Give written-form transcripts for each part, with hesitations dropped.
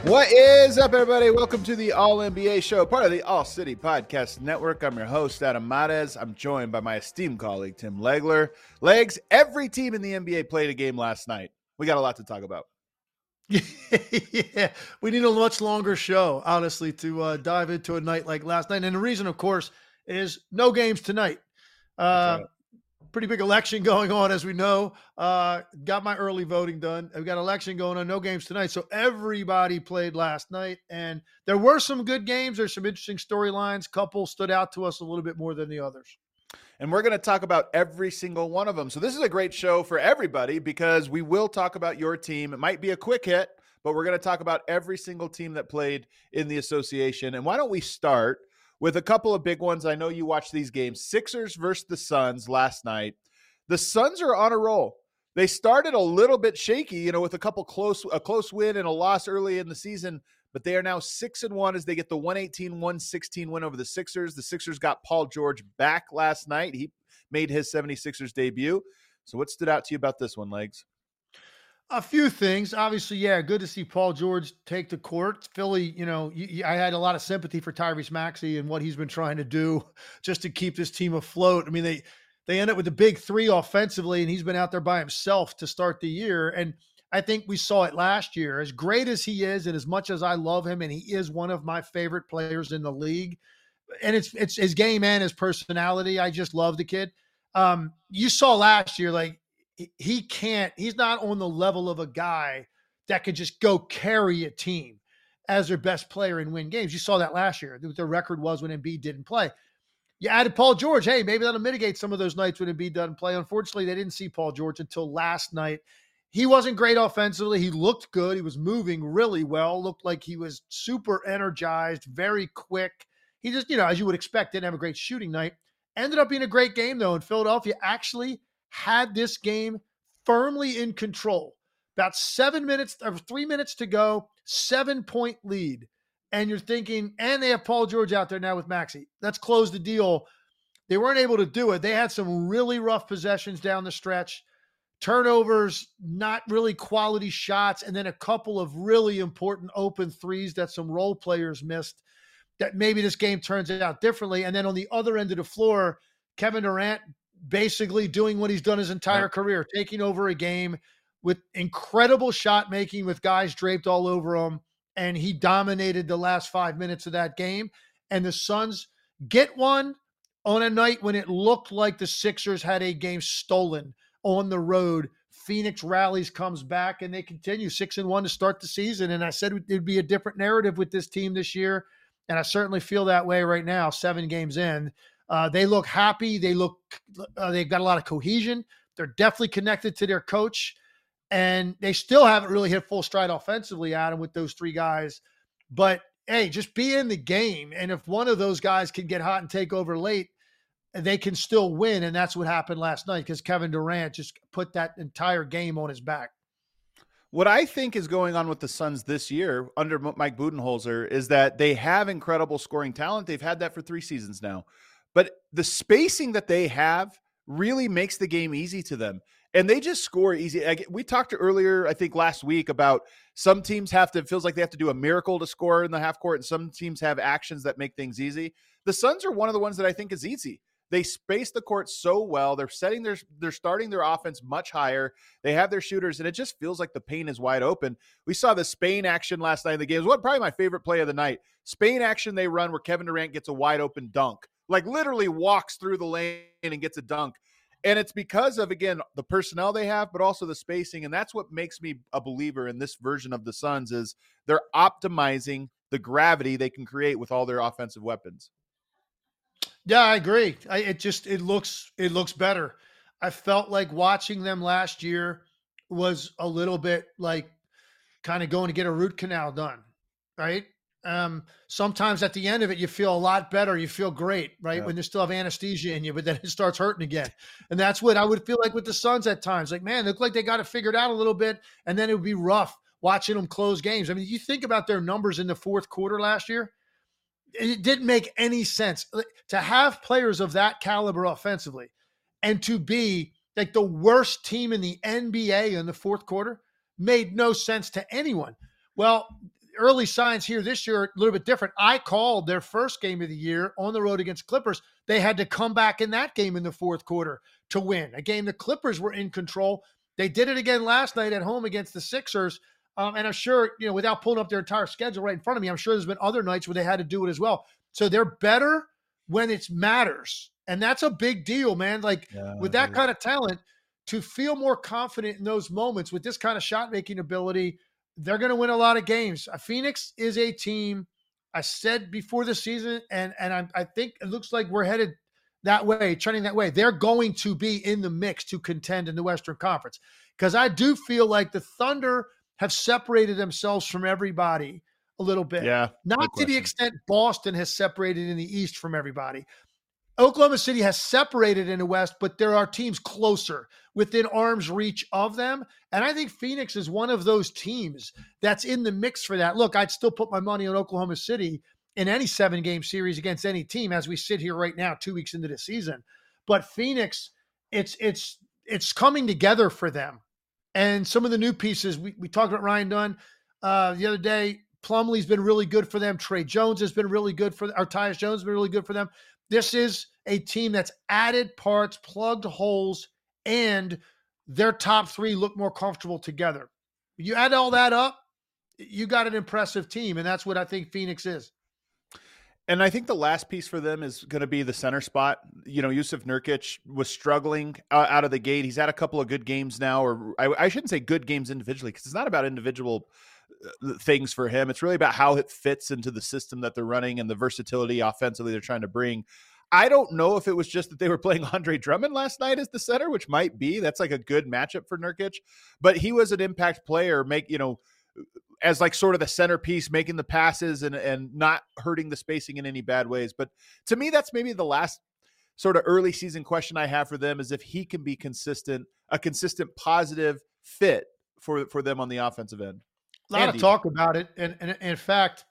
What is up, everybody? Welcome to the All NBA Show, part of the All City Podcast Network. I'm your host, Adam Mares. I'm joined by my esteemed colleague, Tim Legler. Legs, every team in the NBA played a game last night. We got a lot to talk about. Yeah, we need a much longer show, honestly, to dive into a night like last night. And the reason, of course, is no games tonight. Pretty big election going on, as we know. Got my early voting done. I've got election going on, no games tonight. So everybody played last night. And there were some good games. There's some interesting storylines. Couple stood out to us a little bit more than the others. And we're going to talk about every single one of them. So this is a great show for everybody because we will talk about your team. It might be a quick hit, but we're going to talk about every single team that played in the association. And why don't we start with a couple of big ones? I know you watched these games. Sixers versus the Suns last night. The Suns are on a roll. They started a little bit shaky, with a close win and a loss early in the season, but they are now 6-1 as they get the 118-116 win over the Sixers. The Sixers got Paul George back last night. He made his 76ers debut. So what stood out to you about this one, Legs? A few things. Obviously, yeah, good to see Paul George take the court. Philly, I had a lot of sympathy for Tyrese Maxey and what he's been trying to do just to keep this team afloat. I mean, they end up with the big three offensively, and he's been out there by himself to start the year. And I think we saw it last year. As great as he is, and as much as I love him, and he is one of my favorite players in the league, and it's his game and his personality. I just love the kid. You saw last year, like, he's not on the level of a guy that could just go carry a team as their best player and win games. You saw that last year. What the record was when Embiid didn't play. You added Paul George. Hey, maybe that'll mitigate some of those nights when Embiid doesn't play. Unfortunately, they didn't see Paul George until last night. He wasn't great offensively. He looked good. He was moving really well. Looked like he was super energized, very quick. He just, as you would expect, didn't have a great shooting night. Ended up being a great game, though, and Philadelphia actually had this game firmly in control. About 3 minutes to go, 7-point lead. And you're thinking, and they have Paul George out there now with Maxey. Let's close the deal. They weren't able to do it. They had some really rough possessions down the stretch. Turnovers, not really quality shots, and then a couple of really important open threes that some role players missed that maybe this game turns out differently. And then on the other end of the floor, Kevin Durant basically doing what he's done his entire career, taking over a game with incredible shot making with guys draped all over him. And he dominated the last 5 minutes of that game. And the Suns get one on a night when it looked like the Sixers had a game stolen on the road. Phoenix rallies, comes back, and they continue 6-1 to start the season. And I said it'd be a different narrative with this team this year. And I certainly feel that way right now, 7 games in. They look happy. They've got a lot of cohesion. They're definitely connected to their coach. And they still haven't really hit full stride offensively, Adam, with those 3 guys. But, hey, just be in the game. And if one of those guys can get hot and take over late, they can still win. And that's what happened last night because Kevin Durant just put that entire game on his back. What I think is going on with the Suns this year under Mike Budenholzer is that they have incredible scoring talent. They've had that for 3 seasons now. But the spacing that they have really makes the game easy to them. And they just score easy. We talked earlier, I think last week, about some teams it feels like they have to do a miracle to score in the half court, and some teams have actions that make things easy. The Suns are one of the ones that I think is easy. They space the court so well. They're starting their offense much higher. They have their shooters, and it just feels like the paint is wide open. We saw the Spain action last night in the game. It was probably my favorite play of the night. Spain action they run where Kevin Durant gets a wide open dunk, like literally walks through the lane and gets a dunk. And it's because of, again, the personnel they have, but also the spacing. And that's what makes me a believer in this version of the Suns is they're optimizing the gravity they can create with all their offensive weapons. Yeah, I agree. It looks better. I felt like watching them last year was a little bit like kind of going to get a root canal done, right? Sometimes at the end of it, you feel a lot better. You feel great, right? Yeah. When you still have anesthesia in you, but then it starts hurting again. And that's what I would feel like with the Suns at times. Like, man, they look like they got it figured out a little bit, and then it would be rough watching them close games. I mean, you think about their numbers in the fourth quarter last year, it didn't make any sense to have players of that caliber offensively and to be like the worst team in the NBA in the fourth quarter made no sense to anyone. Well, early signs here this year are a little bit different. I called their first game of the year on the road against Clippers. They had to come back in that game in the fourth quarter to win, a game the Clippers were in control. They did it again last night at home against the Sixers. And I'm sure, without pulling up their entire schedule right in front of me, I'm sure there's been other nights where they had to do it as well. So they're better when it matters. And that's a big deal, man. Like with that kind of talent, to feel more confident in those moments with this kind of shot making ability, they're going to win a lot of games. Phoenix is a team, I said before the season, and I think it looks like we're headed that way, trending that way. They're going to be in the mix to contend in the Western Conference, because I do feel like the Thunder have separated themselves from everybody a little bit. Yeah, not to the extent Boston has separated in the East from everybody. Oklahoma City has separated in the West, but there are teams closer within arm's reach of them. And I think Phoenix is one of those teams that's in the mix for that. Look, I'd still put my money on Oklahoma City in any 7-game series against any team as we sit here right now, 2 weeks into the season. But Phoenix, it's coming together for them. And some of the new pieces, we talked about Ryan Dunn the other day. Plumlee's been really good for them. Trey Jones has been really good for them. Or Tyus Jones has been really good for them. This is a team that's added parts, plugged holes, and their top three look more comfortable together. You add all that up, you got an impressive team, and that's what I think Phoenix is. And I think the last piece for them is going to be the center spot. Jusuf Nurkic was struggling out of the gate. He's had a couple of good games now, or I shouldn't say good games individually, because it's not about individual things for him. It's really about how it fits into the system that they're running and the versatility offensively they're trying to bring. I don't know if it was just that they were playing Andre Drummond last night as the center, which might be. That's like a good matchup for Nurkic, but he was an impact player, as like sort of the centerpiece, making the passes and not hurting the spacing in any bad ways. But to me, that's maybe the last sort of early season question I have for them, is if he can be a consistent positive fit for them on the offensive end. A lot of talk about it. And in fact,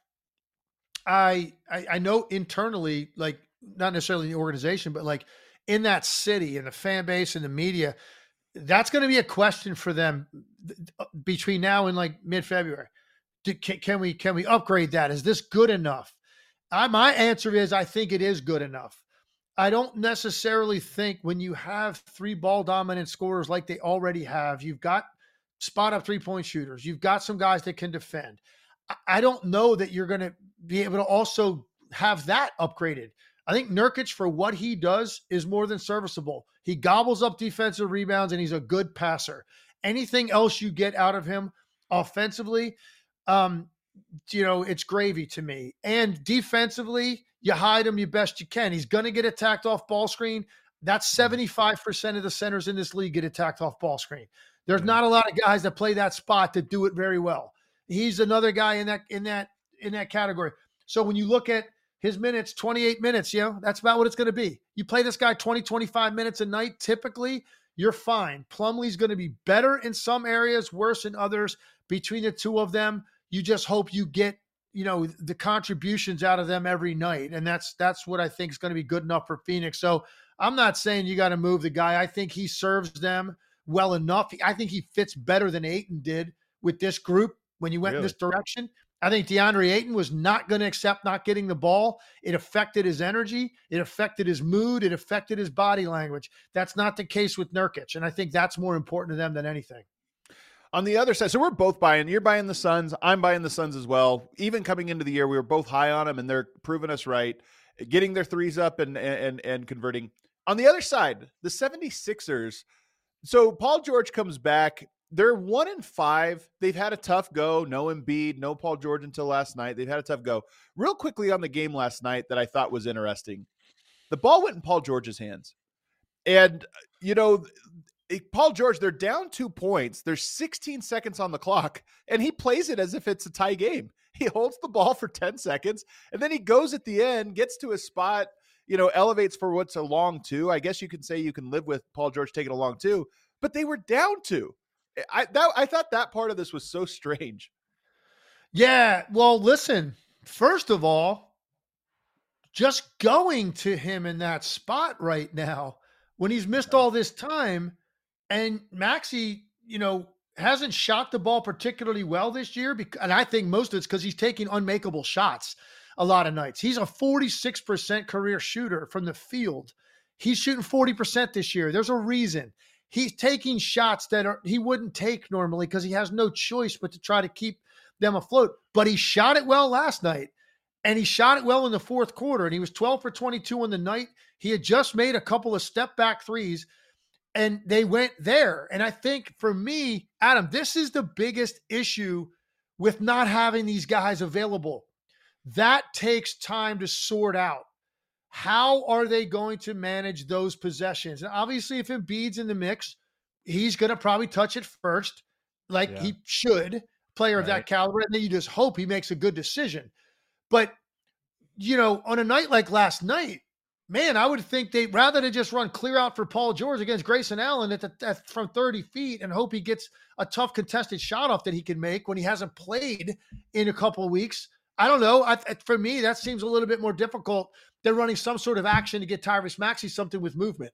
I know internally, like not necessarily in the organization, but like in that city and the fan base and the media, that's going to be a question for them between now and like mid-February. Can we upgrade that? Is this good enough? My answer is, I think it is good enough. I don't necessarily think when you have 3 ball dominant scorers like they already have, you've got spot up 3-point shooters, you've got some guys that can defend. I don't know that you're going to be able to also have that upgraded. I think Nurkic, for what he does, is more than serviceable. He gobbles up defensive rebounds, and he's a good passer. Anything else you get out of him offensively, it's gravy to me. And defensively, you hide him the best you can. He's going to get attacked off ball screen. That's 75% of the centers in this league get attacked off ball screen. There's not a lot of guys that play that spot that do it very well. He's another guy in that category. So when you look at his minutes, 28 minutes, that's about what it's going to be. You play this guy 20, 25 minutes a night, typically, you're fine. Plumlee's going to be better in some areas, worse in others. Between the two of them, you just hope you get, the contributions out of them every night. And that's what I think is going to be good enough for Phoenix. So I'm not saying you got to move the guy. I think he serves them well enough. I think he fits better than Ayton did with this group when you went in this direction. I think DeAndre Ayton was not going to accept not getting the ball. It affected his energy. It affected his mood. It affected his body language. That's not the case with Nurkic. And I think that's more important to them than anything. On the other side, so we're both buying. You're buying the Suns. I'm buying the Suns as well. Even coming into the year, we were both high on them, and they're proving us right, getting their threes up and converting. On the other side, the 76ers. So Paul George comes back. They're 1-5. They've had a tough go. No Embiid, no Paul George until last night. They've had a tough go. Real quickly on the game last night that I thought was interesting. The ball went in Paul George's hands. And, Paul George, they're down 2 points. There's 16 seconds on the clock, and he plays it as if it's a tie game. He holds the ball for 10 seconds, and then he goes at the end, gets to his spot, elevates for what's a long 2. I guess you can say you can live with Paul George taking a long 2, but they were down 2. I thought that part of this was so strange. Yeah, well, listen, first of all, just going to him in that spot right now when he's missed all this time, and Maxey, hasn't shot the ball particularly well this year, and I think most of it's because he's taking unmakeable shots a lot of nights. He's a 46% career shooter from the field. He's shooting 40% this year. There's a reason. He's taking shots that he wouldn't take normally because he has no choice but to try to keep them afloat. But he shot it well last night, and he shot it well in the fourth quarter, and he was 12 for 22 on the night. He had just made a couple of step back threes, and they went there. And I think for me, Adam, this is the biggest issue with not having these guys available. That takes time to sort out. How are they going to manage those possessions? And obviously, if Embiid's in the mix, he's going to probably touch it first, like he should, player of that caliber. And then you just hope he makes a good decision. But, on a night like last night, man, I would think they'd rather than just run clear out for Paul George against Grayson Allen from 30 feet and hope he gets a tough contested shot off that he can make when he hasn't played in a couple of weeks. I don't know. For me, that seems a little bit more difficult than running some sort of action to get Tyrese Maxey something with movement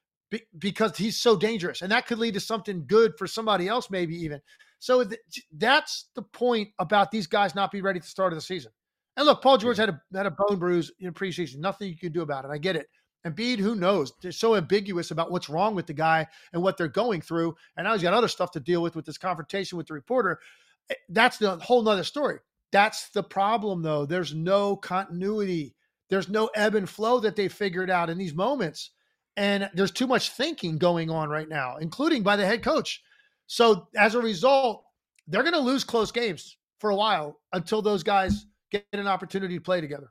because he's so dangerous. And that could lead to something good for somebody else, maybe even. So that's the point about these guys not being ready at the start of the season. And look, Paul George had a bone bruise in preseason. Nothing you can do about it. I get it. Embiid, who knows? They're so ambiguous about what's wrong with the guy and what they're going through. And now he's got other stuff to deal with this confrontation with the reporter. That's the whole nother story. That's the problem, though. There's no continuity. There's no ebb and flow that they figured out in these moments. And there's too much thinking going on right now, including by the head coach. So as a result, they're going to lose close games for a while until those guys get an opportunity to play together.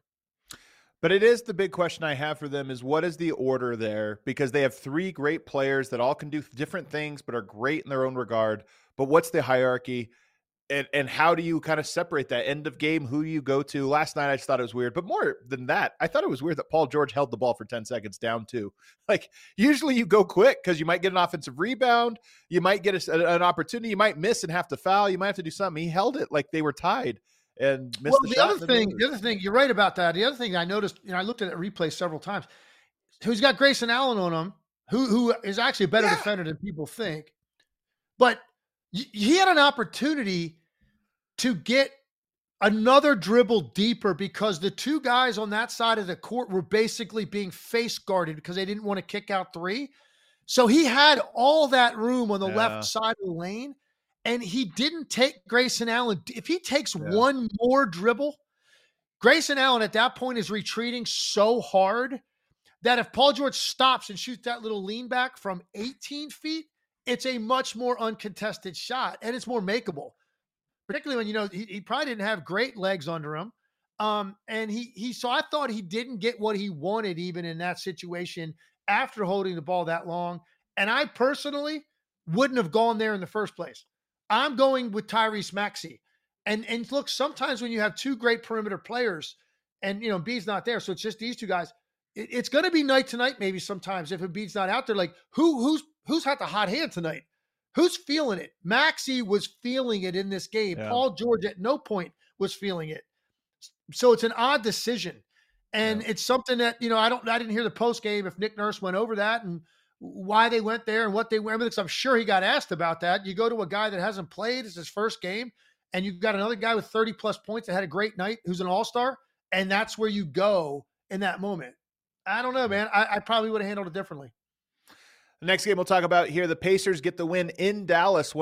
But it is the big question I have for them is what is the order there? Because they have three great players that all can do different things, but are great in their own regard. But what's the hierarchy? And how do you kind of separate that end of game, who you go to? Last night, I just thought it was weird. But more than that, I thought it was weird that Paul George held the ball for 10 seconds down too. Like usually you go quick because you might get an offensive rebound. You might get an opportunity. You might miss and have to foul. You might have to do something. He held it like they were tied and missed the shot. The other thing, you're right about that. The other thing I noticed, I looked at that replay several times. Who's got Grayson Allen on him, who is actually a better defender than people think. But he had an opportunity to get another dribble deeper because the two guys on that side of the court were basically being face guarded because they didn't want to kick out three. So he had all that room on the left side of the lane, and he didn't take Grayson Allen. If he takes one more dribble, Grayson Allen at that point is retreating so hard that if Paul George stops and shoots that little lean back from 18 feet, it's a much more uncontested shot, and it's more makeable. Particularly when, he probably didn't have great legs under him. And so I thought he didn't get what he wanted even in that situation after holding the ball that long. And I personally wouldn't have gone there in the first place. I'm going with Tyrese Maxey. And look, sometimes when you have two great perimeter players and, Embiid's not there, so it's just these two guys, it's going to be night to night maybe sometimes if Embiid's not out there. Like, who's had the hot hand tonight? Who's feeling it? Maxey was feeling it in this game. Yeah. Paul George at no point was feeling it. So it's an odd decision. And it's something that, I didn't hear the post game if Nick Nurse went over that and why they went there and what they went, because I'm sure he got asked about that. You go to a guy that hasn't played, it's his first game, and you've got another guy with 30 plus points that had a great night who's an all-star, and that's where you go in that moment. I don't know, man. I probably would have handled it differently. The next game we'll talk about here, the Pacers get the win in Dallas,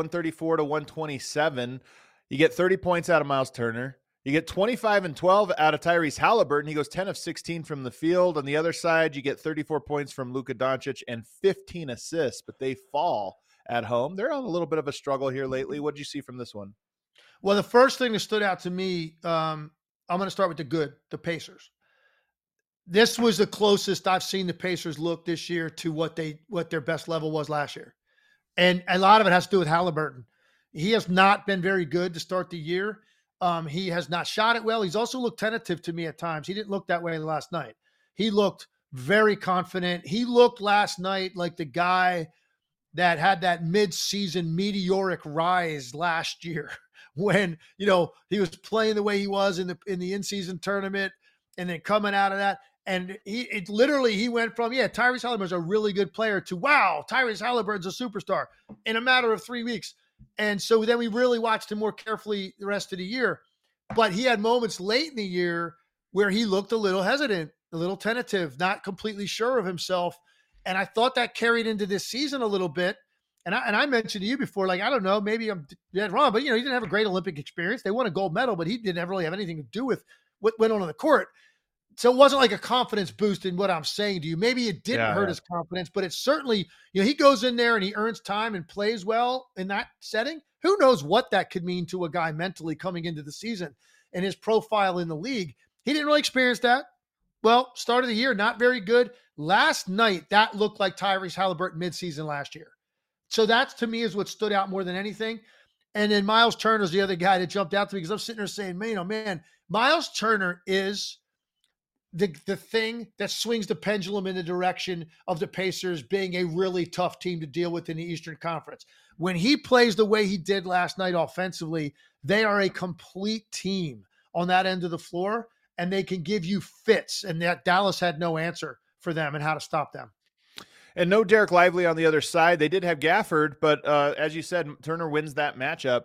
134-127. You get 30 points out of Miles Turner. You get 25 and 12 out of Tyrese Halliburton. He goes 10 of 16 from the field. On the other side, you get 34 points from Luka Doncic and 15 assists, but they fall at home. They're on a little bit of a struggle here lately. What did you see from this one? Well, the first thing that stood out to me, I'm going to start with the Pacers. This was the closest I've seen the Pacers look this year to what their best level was last year. And a lot of it has to do with Halliburton. He has not been very good to start the year. He has not shot it well. He's also looked tentative to me at times. He didn't look that way last night. He looked very confident. He looked last night like the guy that had that mid-season meteoric rise last year when, he was playing the way he was in the in-season tournament and then coming out of that. And he went from, Tyrese Halliburton's a really good player to, wow, Tyrese Halliburton's a superstar in a matter of 3 weeks. And so then we really watched him more carefully the rest of the year. But he had moments late in the year where he looked a little hesitant, a little tentative, not completely sure of himself. And I thought that carried into this season a little bit. And I mentioned to you before, like, I don't know, maybe I'm dead wrong, but, he didn't have a great Olympic experience. They won a gold medal, but he didn't really have anything to do with what went on the court. So it wasn't like a confidence boost in what I'm saying to you. Maybe it didn't hurt his confidence, but it's certainly, he goes in there and he earns time and plays well in that setting. Who knows what that could mean to a guy mentally coming into the season and his profile in the league. He didn't really experience that. Well, start of the year, not very good. Last night, that looked like Tyrese Halliburton midseason last year. So that, to me, is what stood out more than anything. And then Miles Turner's the other guy that jumped out to me because I'm sitting there saying, man, oh man, Miles Turner is the thing that swings the pendulum in the direction of the Pacers being a really tough team to deal with in the Eastern Conference. When he plays the way he did last night offensively, they are a complete team on that end of the floor, and they can give you fits. And that Dallas had no answer for them and how to stop them. And no Derek Lively on the other side. They did have Gafford, but as you said, Turner wins that matchup.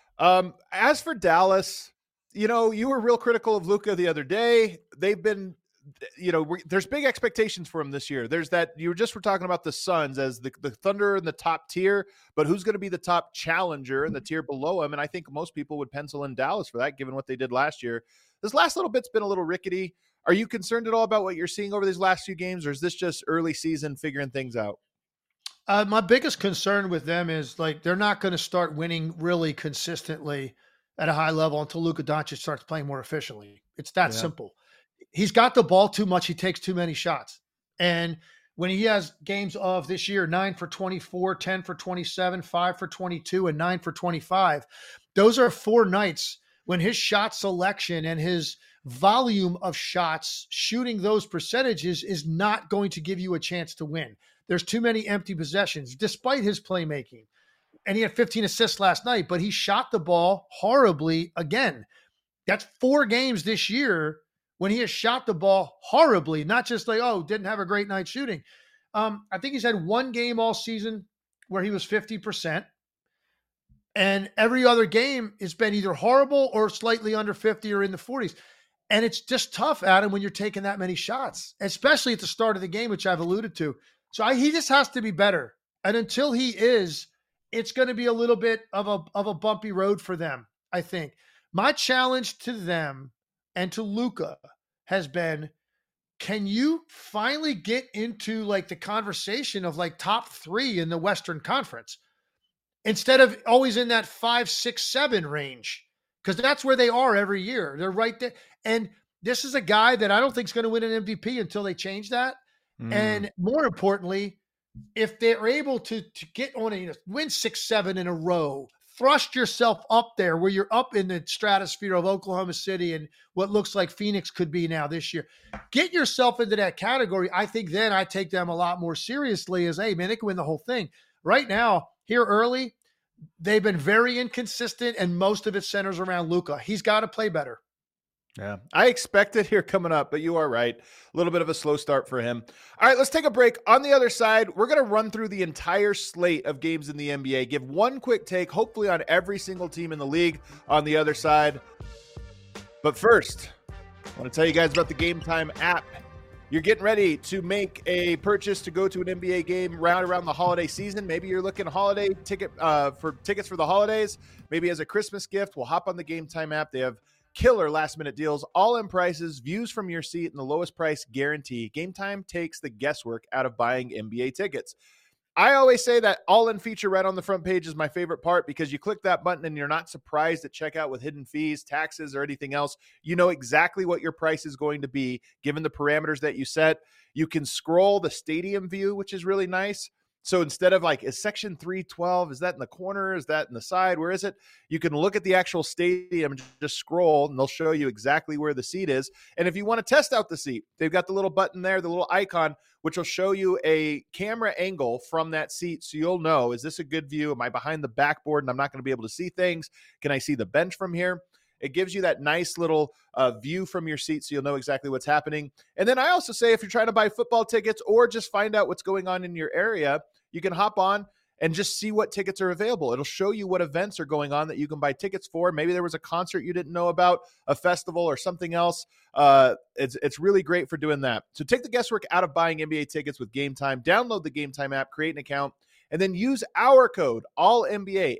As for Dallas, you were real critical of Luka the other day. They've been, there's big expectations for him this year. There's that, you were talking about the Suns as the Thunder in the top tier, but who's going to be the top challenger in the tier below him? And I think most people would pencil in Dallas for that, given what they did last year. This last little bit's been a little rickety. Are you concerned at all about what you're seeing over these last few games, or is this just early season figuring things out? My biggest concern with them is, like, they're not going to start winning really consistently at a high level until Luka Doncic starts playing more efficiently. It's that simple. He's got the ball too much. He takes too many shots. And when he has games of this year, 9 for 24, 10 for 27, 5 for 22, and 9 for 25, those are 4 nights when his shot selection and his volume of shots, shooting those percentages, is not going to give you a chance to win. There's too many empty possessions, despite his playmaking. And he had 15 assists last night, but he shot the ball horribly again. That's 4 games this year when he has shot the ball horribly, not just like, didn't have a great night shooting. I think he's had 1 game all season where he was 50%. And every other game it's been either horrible or slightly under 50 or in the 40s. And it's just tough, Adam, when you're taking that many shots, especially at the start of the game, which I've alluded to. So he just has to be better. And until he is, it's going to be a little bit of a bumpy road for them, I think. My challenge to them and to Luka has been, can you finally get into, like, the conversation of, like, top 3 in the Western Conference instead of always in that 5, 6, 7 range? Because that's where they are every year. They're right there. And this is a guy that I don't think is going to win an MVP until they change that. And more importantly, if they're able to get on win 6, 7 in a row, thrust yourself up there where you're up in the stratosphere of Oklahoma City and what looks like Phoenix could be now this year. Get yourself into that category. I think then I take them a lot more seriously as, hey, man, they can win the whole thing. Right now, here early, they've been very inconsistent, and most of it centers around Luka. He's got to play better. Yeah, I expect it here coming up, but you are right. A little bit of a slow start for him. All right, let's take a break. On the other side, we're going to run through the entire slate of games in the NBA, give one quick take, hopefully on every single team in the league on the other side. But first, I want to tell you guys about the Game Time app. You're getting ready to make a purchase to go to an NBA game around the holiday season. Maybe you're looking holiday tickets for the holidays. Maybe as a Christmas gift, we'll hop on the Game Time app. They have killer last-minute deals, all-in prices, views from your seat, and the lowest price guarantee. Game Time takes the guesswork out of buying NBA tickets. I always say that all-in feature right on the front page is my favorite part because you click that button and you're not surprised at checkout with hidden fees, taxes, or anything else. You know exactly what your price is going to be given the parameters that you set. You can scroll the stadium view, which is really nice. So instead of like, is section 312, is that in the corner? Is that in the side? Where is it? You can look at the actual stadium and just scroll, and they'll show you exactly where the seat is. And if you want to test out the seat, they've got the little button there, the little icon, which will show you a camera angle from that seat. So you'll know, is this a good view? Am I behind the backboard and I'm not going to be able to see things? Can I see the bench from here? It gives you that nice little view from your seat so you'll know exactly what's happening. And then I also say if you're trying to buy football tickets or just find out what's going on in your area, you can hop on and just see what tickets are available. It'll show you what events are going on that you can buy tickets for. Maybe there was a concert you didn't know about, a festival or something else. It's really great for doing that. So take the guesswork out of buying NBA tickets with Game Time. Download the Game Time app, create an account, and then use our code ALLNBA,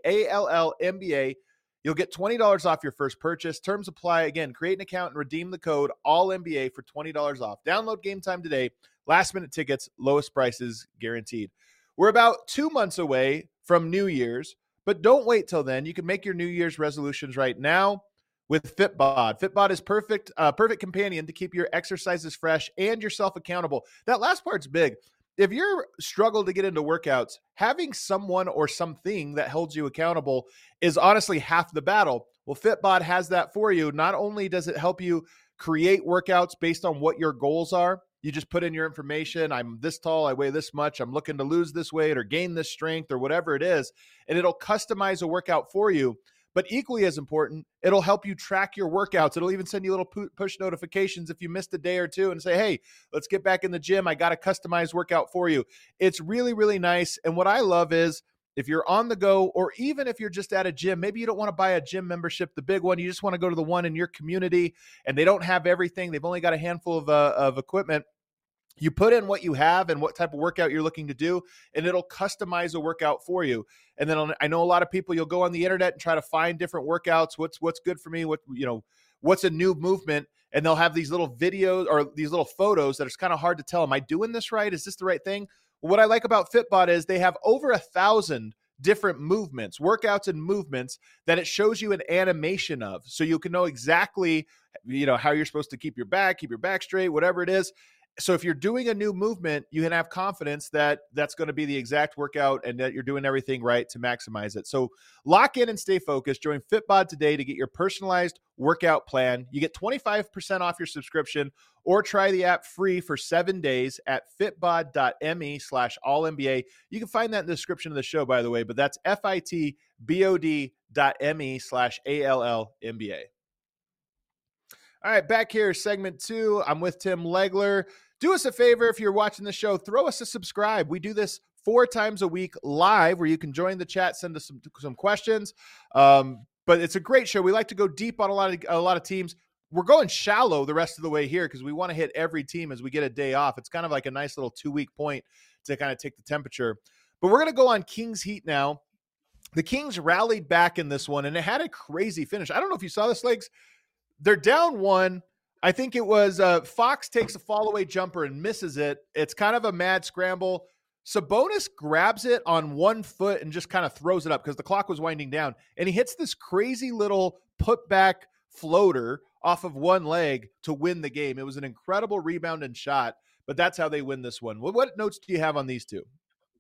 ALLNBA. You'll get $20 off your first purchase. Terms apply. Again, create an account and redeem the code ALLNBA for $20 off. Download Game Time today. Last minute tickets, lowest prices guaranteed. We're about 2 months away from New Year's, but don't wait till then. You can make your New Year's resolutions right now with Fitbod. Fitbod is perfect companion to keep your exercises fresh and yourself accountable. That last part's big. If you're struggle to get into workouts, having someone or something that holds you accountable is honestly half the battle. Well, Fitbod has that for you. Not only does it help you create workouts based on what your goals are, you just put in your information. I'm this tall, I weigh this much, I'm looking to lose this weight or gain this strength or whatever it is, and it'll customize a workout for you. But equally as important, it'll help you track your workouts. It'll even send you little push notifications if you missed a day or two and say, hey, let's get back in the gym. I got a customized workout for you. It's really, really nice. And what I love is if you're on the go, or even if you're just at a gym, maybe you don't want to buy a gym membership, the big one, you just want to go to the one in your community and they don't have everything. They've only got a handful of equipment. You put in what you have and what type of workout you're looking to do, and it'll customize a workout for you. And then I know a lot of people, you'll go on the internet and try to find different workouts. What's good for me? What's a new movement? And they'll have these little videos or these little photos that it's kind of hard to tell. Am I doing this right? Is this the right thing? Well, what I like about Fitbod is they have over 1,000 different movements, workouts and movements that it shows you an animation of. So you can know exactly, how you're supposed to keep your back straight, whatever it is. So if you're doing a new movement, you can have confidence that that's going to be the exact workout and that you're doing everything right to maximize it. So lock in and stay focused. Join Fitbod today to get your personalized workout plan. You get 25% off your subscription or try the app free for 7 days at fitbod.me/allnba. You can find that in the description of the show, by the way, but that's fitbod.me/allnba. All right, back here, segment 2. I'm with Tim Legler. Do us a favor if you're watching the show, throw us a subscribe. We do this 4 times a week live where you can join the chat, send us some questions. But it's a great show. We like to go deep on a lot of teams. We're going shallow the rest of the way here because we want to hit every team as we get a day off. It's kind of like a nice little 2-week point to kind of take the temperature. But we're going to go on Kings Heat now. The Kings rallied back in this one, and it had a crazy finish. I don't know if you saw this, Legs. They're down 1. I think it was Fox takes a fall-away jumper and misses it. It's kind of a mad scramble. Sabonis grabs it on 1 foot and just kind of throws it up because the clock was winding down. And he hits this crazy little put-back floater off of 1 leg to win the game. It was an incredible rebound and shot, but that's how they win this one. What notes do you have on these two?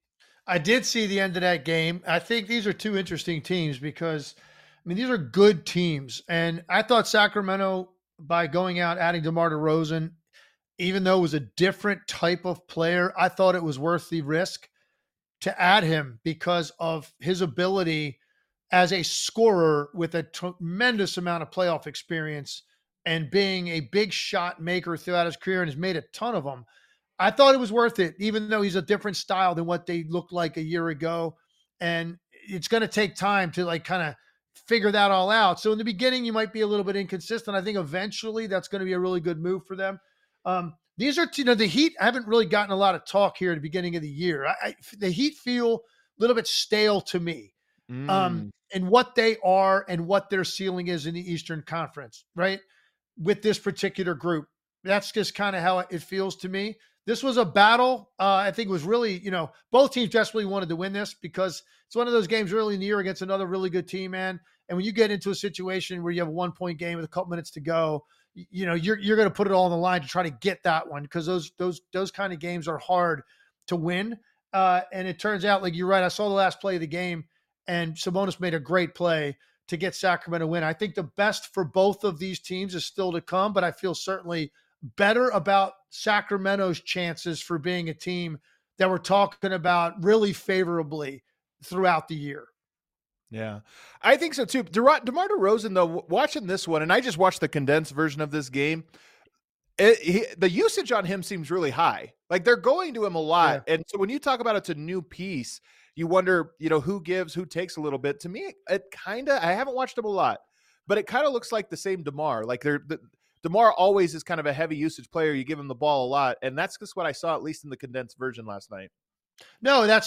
I did see the end of that game. I think these are 2 interesting teams because – these are good teams. And I thought Sacramento, by going out, adding DeMar DeRozan, even though it was a different type of player, I thought it was worth the risk to add him because of his ability as a scorer with a tremendous amount of playoff experience and being a big shot maker throughout his career and has made a ton of them. I thought it was worth it, even though he's a different style than what they looked like a year ago. And it's going to take time to kind of figure that all out. So in the beginning, you might be a little bit inconsistent. I think eventually that's going to be a really good move for them. These are, the Heat haven't really gotten a lot of talk here at the beginning of the year. The Heat feel a little bit stale to me and what they are and what their ceiling is in the Eastern Conference, right? With this particular group. That's just kind of how it feels to me. This was a battle. I think it was really, both teams desperately wanted to win this because it's one of those games early in the year against another really good team, man. And when you get into a situation where you have a 1-point game with a couple minutes to go, you're going to put it all on the line to try to get that one because those kind of games are hard to win. And it turns out, like you're right, I saw the last play of the game, and Sabonis made a great play to get Sacramento win. I think the best for both of these teams is still to come, but I feel certainly better about Sacramento's chances for being a team that we're talking about really favorably throughout the year. Yeah, I think so too. DeMar DeRozan, though, watching this one, and I just watched the condensed version of this game. The usage on him seems really high. Like they're going to him a lot. Yeah. And so when you talk about it's a new piece, you wonder, who gives, who takes a little bit. To me, it kind of, I haven't watched him a lot, but it kind of looks like the same DeMar. Like DeMar always is kind of a heavy usage player. You give him the ball a lot. And that's just what I saw, at least in the condensed version last night. No, that's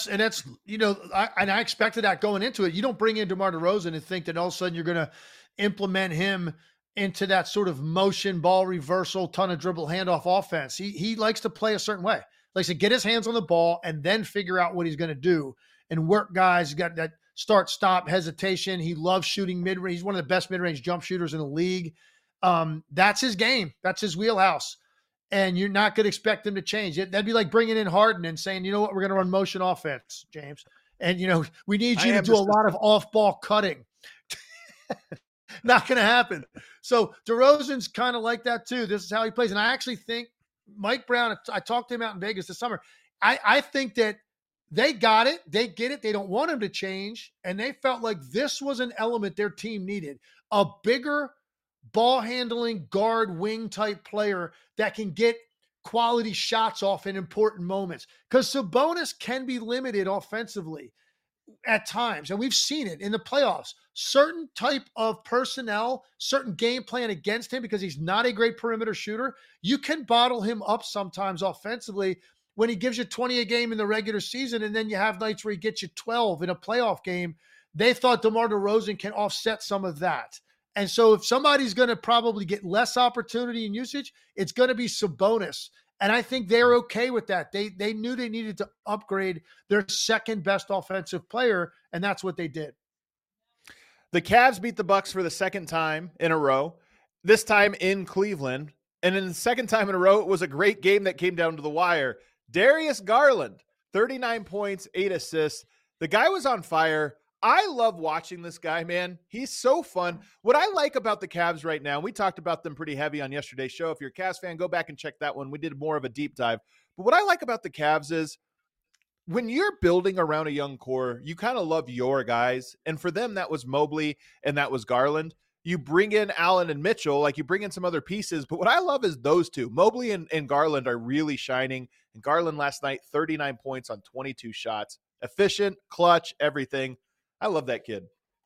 I expected that going into it. You don't bring in DeMar DeRozan and think that all of a sudden you're going to implement him into that sort of motion ball reversal, ton of dribble handoff offense. He likes to play a certain way. Likes to get his hands on the ball and then figure out what he's going to do and work guys. He's got that start, stop, hesitation. He loves shooting mid-range. He's one of the best mid-range jump shooters in the league. That's his game. That's his wheelhouse. And you're not going to expect them to change it. That'd be like bringing in Harden and saying, you know what, we're going to run motion offense, James. And, we need you to do a lot of off-ball cutting. Not going to happen. So DeRozan's kind of like that too. This is how he plays. And I actually think Mike Brown, I talked to him out in Vegas this summer. I think that they got it. They get it. They don't want him to change. And they felt like this was an element their team needed. A bigger ball handling guard wing type player that can get quality shots off in important moments. Because Sabonis can be limited offensively at times. And we've seen it in the playoffs. Certain type of personnel, certain game plan against him because he's not a great perimeter shooter. You can bottle him up sometimes offensively when he gives you 20 a game in the regular season. And then you have nights where he gets you 12 in a playoff game. They thought DeMar DeRozan can offset some of that. And so if somebody's going to probably get less opportunity and usage, it's going to be Sabonis. And I think they're okay with that. They knew they needed to upgrade their second best offensive player, and that's what they did. The Cavs beat the Bucks for the second time in a row, this time in Cleveland. And in the second time in a row, it was a great game that came down to the wire. Darius Garland, 39 points, 8 assists. The guy was on fire. I love watching this guy, man. He's so fun. What I like about the Cavs right now, we talked about them pretty heavy on yesterday's show. If you're a Cavs fan, go back and check that one. We did more of a deep dive. But what I like about the Cavs is when you're building around a young core, you kind of love your guys. And for them, that was Mobley and that was Garland. You bring in Allen and Mitchell, like you bring in some other pieces. But what I love is those two. Mobley and Garland are really shining. And Garland last night, 39 points on 22 shots. Efficient, clutch, everything. I love that kid.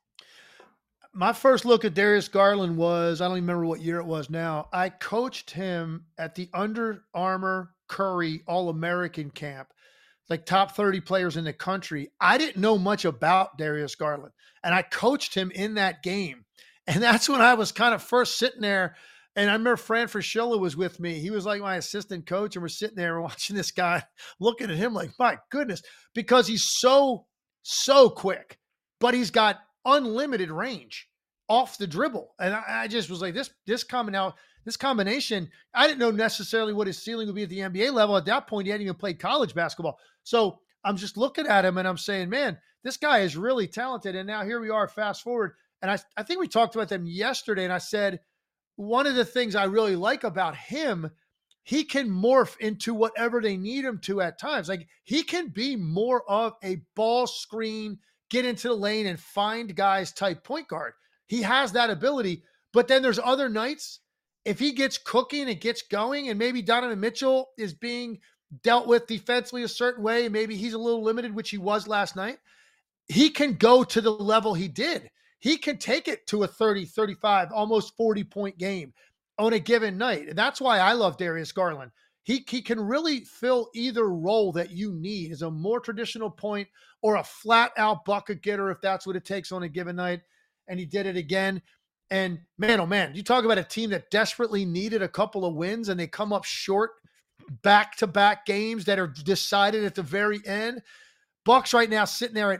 My first look at Darius Garland was, I don't even remember what year it was now. I coached him at the Under Armour Curry All-American Camp, like top 30 players in the country. I didn't know much about Darius Garland, and I coached him in that game. And that's when I was kind of first sitting there. And I remember Fran Fraschilla was with me. He was like my assistant coach, and we're sitting there watching this guy, looking at him like, my goodness, because he's so quick. But he's got unlimited range off the dribble. And I just was like, this combination, I didn't know necessarily what his ceiling would be at the NBA level. At that point, he hadn't even played college basketball. So I'm just looking at him and I'm saying, man, this guy is really talented. And now here we are, fast forward. And I think we talked about them yesterday. And I said, one of the things I really like about him, he can morph into whatever they need him to at times. Like he can be more of a ball screen, get into the lane and find guys type point guard. He has that ability, but then there's other nights, if he gets cooking and gets going and maybe Donovan Mitchell is being dealt with defensively a certain way, and maybe he's a little limited, which he was last night, he can go to the level he did. He can take it to a 30, 35, almost 40-point game on a given night. And that's why I love Darius Garland. He can really fill either role that you need as a more traditional point or a flat out bucket getter if that's what it takes on a given night. And he did it again. And man, oh man, you talk about a team that desperately needed a couple of wins and they come up short back-to-back games that are decided at the very end. Bucks right now sitting there at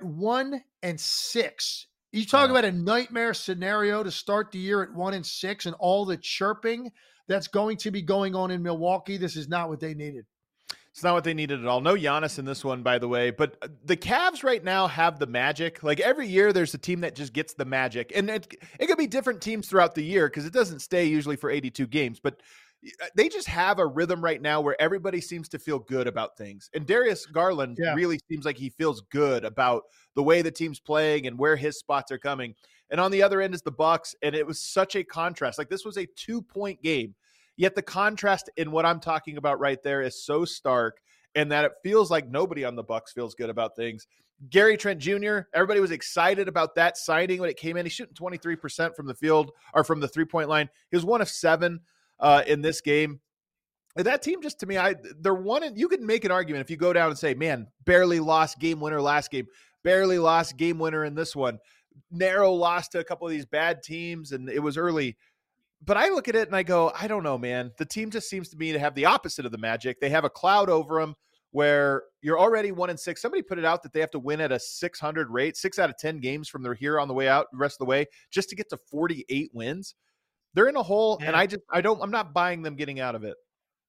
1-6. You talk about a nightmare scenario to start the year at 1-6 and all the chirping that's going to be going on in Milwaukee. This is not what they needed. It's not what they needed at all. No Giannis in this one, by the way. But the Cavs right now have the magic. Like every year, there's a team that just gets the magic. And it could be different teams throughout the year because it doesn't stay usually for 82 games. But they just have a rhythm right now where everybody seems to feel good about things. And Darius Garland really seems like he feels good about the way the team's playing and where his spots are coming. And on the other end is the Bucks. And it was such a contrast. Like this was a 2-point game. Yet the contrast in what I'm talking about right there is so stark, and that it feels like nobody on the Bucks feels good about things. Gary Trent Jr., everybody was excited about that signing when it came in. He's shooting 23% from the field or from the 3-point line. He was 1 of 7 in this game. That team, just to me, they're one. And you can make an argument if you go down and say, man, barely lost game winner last game, barely lost game winner in this one, narrow loss to a couple of these bad teams, and it was early. But I look at it and I go, I don't know, man. The team just seems to me to have the opposite of the magic. They have a cloud over them where you're already 1-6. Somebody put it out that they have to win at a 600 rate, 6 out of 10 games from their here on the way out, the rest of the way, just to get to 48 wins. They're in a hole, and I'm not buying them getting out of it.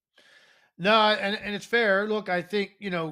No, and it's fair. Look, I think,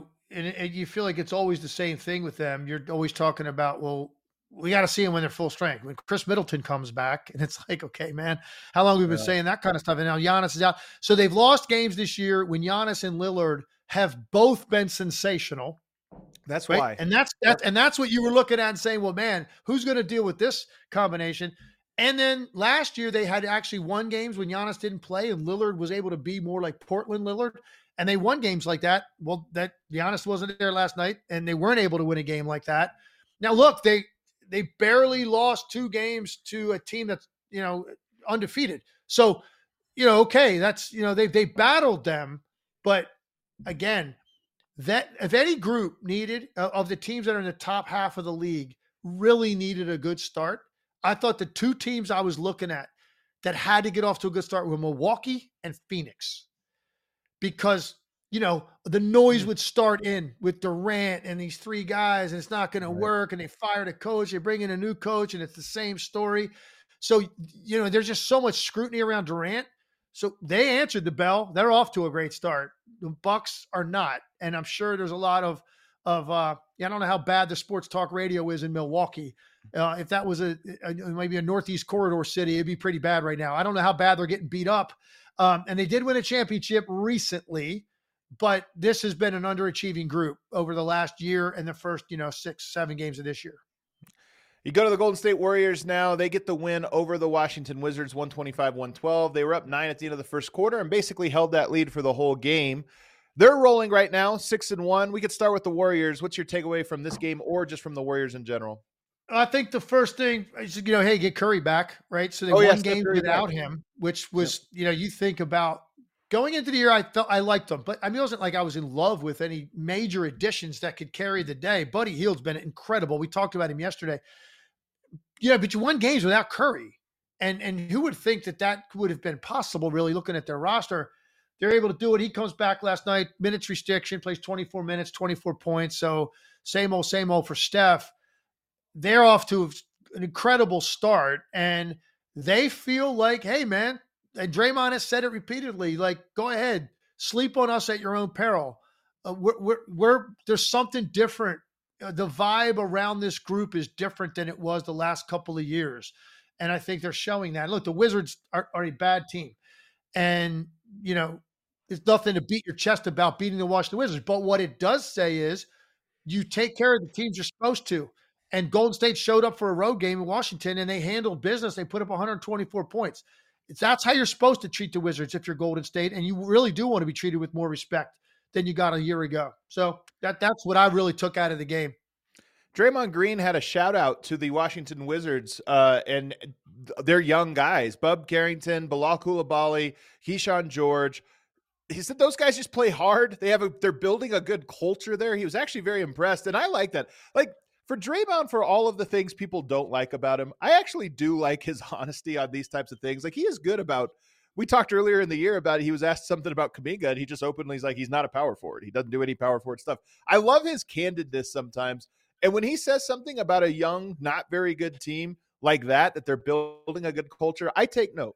and you feel like it's always the same thing with them. You're always talking about, well, we got to see them when they're full strength. When Chris Middleton comes back, and it's like, okay, man, how long have we been saying that kind of stuff? And now Giannis is out. So they've lost games this year when Giannis and Lillard have both been sensational. That's right? why. And that's what you were looking at and saying, well, man, who's going to deal with this combination? And then last year they had actually won games when Giannis didn't play and Lillard was able to be more like Portland Lillard. And they won games like that. Well, that Giannis wasn't there last night and they weren't able to win a game like that. Now, look, they barely lost 2 games to a team that's, undefeated. So, okay, that's, they battled them. But again, that if any group needed of the teams that are in the top half of the league really needed a good start, I thought the 2 teams I was looking at that had to get off to a good start were Milwaukee and Phoenix. Because, the noise would start in with Durant and these 3 guys, and it's not going to work. And they fired a coach, they bring in a new coach, and it's the same story. So, there's just so much scrutiny around Durant. So they answered the bell. They're off to a great start. The Bucks are not. And I'm sure there's a lot of I don't know how bad the sports talk radio is in Milwaukee. If that was maybe a Northeast corridor city, it'd be pretty bad right now. I don't know how bad they're getting beat up. And they did win a championship recently, but this has been an underachieving group over the last year and the first, 6-7 games of this year. You go to the Golden State Warriors now. They get the win over the Washington Wizards, 125-112. They were up 9 at the end of the first quarter and basically held that lead for the whole game. They're rolling right now, 6-1. We could start with the Warriors. What's your takeaway from this game or just from the Warriors in general? I think the first thing is, hey, get Curry back, right? So they won games without him, which was, you think about going into the year, I felt I liked them, but it wasn't like I was in love with any major additions that could carry the day. Buddy Hield's been incredible. We talked about him yesterday. But you won games without Curry. And who would think that would have been possible, really, looking at their roster? They're able to do it. He comes back last night, minutes restriction, plays 24 minutes, 24 points. So same old for Steph. They're off to an incredible start, and they feel like, hey, man, and Draymond has said it repeatedly, like, go ahead, sleep on us at your own peril. There's something different. The vibe around this group is different than it was the last couple of years. And I think they're showing that. Look, the Wizards are a bad team. And, there's nothing to beat your chest about beating the Washington Wizards. But what it does say is you take care of the teams you're supposed to. And Golden State showed up for a road game in Washington, and they handled business. They put up 124 points. That's how you're supposed to treat the Wizards if you're Golden State. And you really do want to be treated with more respect than you got a year ago. So that's what I really took out of the game. Draymond Green had a shout out to the Washington Wizards and their young guys, Bub Carrington, Bilal Coulibaly, Keyshawn George. He said those guys just play hard. They're building a good culture there. He was actually very impressed. And I like that. Like, for Draymond, for all of the things people don't like about him, I actually do like his honesty on these types of things. Like, he is good about, we talked earlier in the year about, he was asked something about Kuminga, and he just openly is like, he's not a power forward. He doesn't do any power forward stuff. I love his candidness sometimes. And when he says something about a young, not very good team like that they're building a good culture, I take note.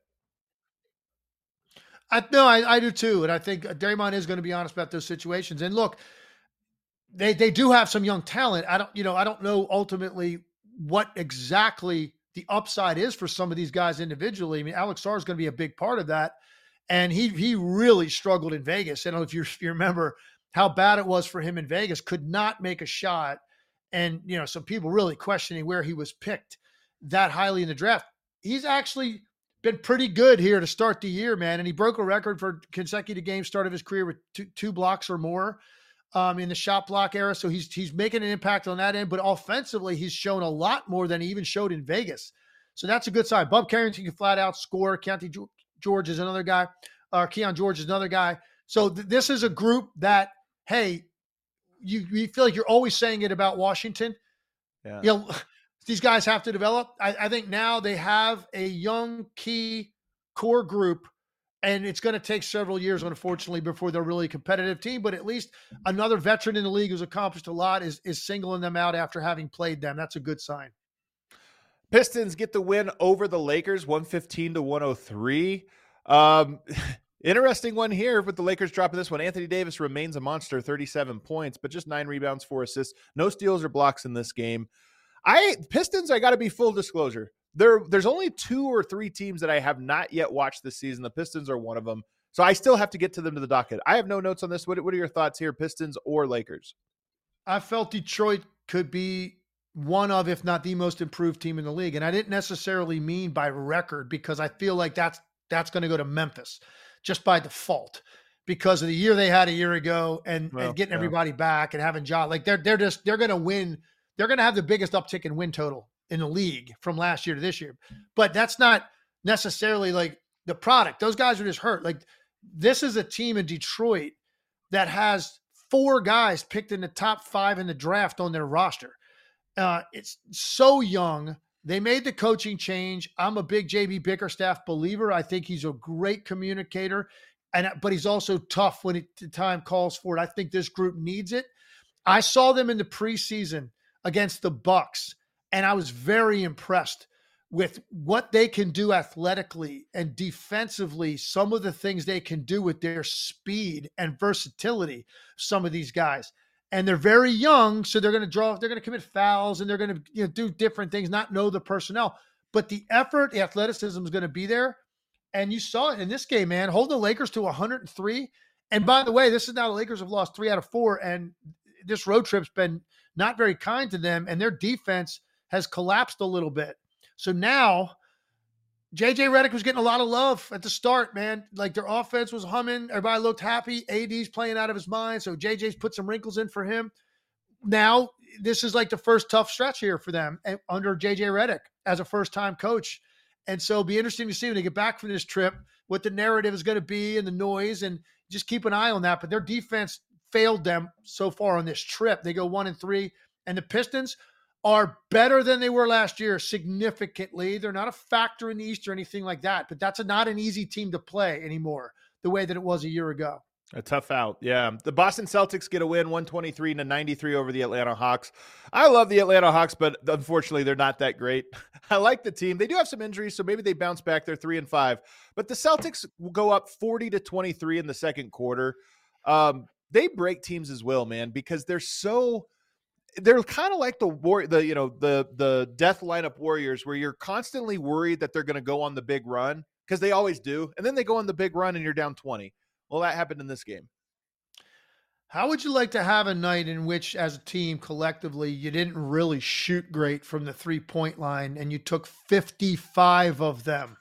I do too. And I think Draymond is going to be honest about those situations. And look, they do have some young talent. I don't know ultimately what exactly the upside is for some of these guys individually. I mean, Alex Sarr is going to be a big part of that. And he really struggled in Vegas. I don't know if you remember how bad it was for him in Vegas, could not make a shot. And, some people really questioning where he was picked that highly in the draft. He's actually been pretty good here to start the year, man. And he broke a record for consecutive games start of his career with two blocks or more in the shot block era. So he's making an impact on that end. But offensively, he's shown a lot more than he even showed in Vegas. So that's a good sign. Bub Carrington can flat out score. Keontae George is another guy. Keon George is another guy. So this is a group that, hey, you feel like you're always saying it about Washington. Yeah. You know, these guys have to develop. I think now they have a young key core group, and it's going to take several years, unfortunately, before they're really a competitive team. But at least another veteran in the league who's accomplished a lot is singling them out after having played them. That's a good sign. Pistons get the win over the Lakers, 115-103. Interesting one here with the Lakers dropping this one. Anthony Davis remains a monster, 37 points, but just 9 rebounds, 4 assists. No steals or blocks in this game. Pistons, I got to be full disclosure. There's only 2 or 3 teams that I have not yet watched this season. The Pistons are one of them. So I still have to get to them to the docket. I have no notes on this. What are your thoughts here, Pistons or Lakers? I felt Detroit could be one of, if not the most improved team in the league. And I didn't necessarily mean by record, because I feel like that's going to go to Memphis just by default because of the year they had a year ago and getting everybody back and having John. Like they're going to win. They're going to have the biggest uptick in win total in the league from last year to this year. But that's not necessarily like the product. Those guys are just hurt. Like this is a team in Detroit that has 4 guys picked in the top 5 in the draft on their roster. It's so young. They made the coaching change. I'm a big JB Bickerstaff believer. I think he's a great communicator, but he's also tough when the time calls for it. I think this group needs it. I saw them in the preseason against the Bucks, and I was very impressed with what they can do athletically and defensively, some of the things they can do with their speed and versatility, some of these guys. And they're very young, so they're going to commit fouls, and they're going to do different things, not know the personnel. But the effort, the athleticism is going to be there. And you saw it in this game, man. Hold the Lakers to 103. And by the way, this is now the Lakers have lost 3 out of 4, and this road trip's been not very kind to them, and their defense has collapsed a little bit. So now JJ Redick was getting a lot of love at the start, man. Like their offense was humming. Everybody looked happy. AD's playing out of his mind. So JJ's put some wrinkles in for him. Now, this is like the first tough stretch here for them under JJ Redick as a first-time coach. And so it'll be interesting to see when they get back from this trip what the narrative is going to be and the noise, and just keep an eye on that. But their defense failed them so far on this trip. They go 1-3, and the Pistons are better than they were last year significantly. They're not a factor in the East or anything like that, but that's not an easy team to play anymore the way that it was a year ago. A tough out. Yeah. The Boston Celtics get a win 123-93 over the Atlanta Hawks. I love the Atlanta Hawks, but unfortunately they're not that great. I like the team. They do have some injuries, so maybe they bounce back. They're 3-5, but the Celtics will go up 40-23 in the second quarter. They break teams as well, man, because they're kind of like the death lineup Warriors, where you're constantly worried that they're going to go on the big run, because they always do. And then they go on the big run and you're down 20. Well, that happened in this game. How would you like to have a night in which, as a team collectively, you didn't really shoot great from the 3-point line and you took 55 of them?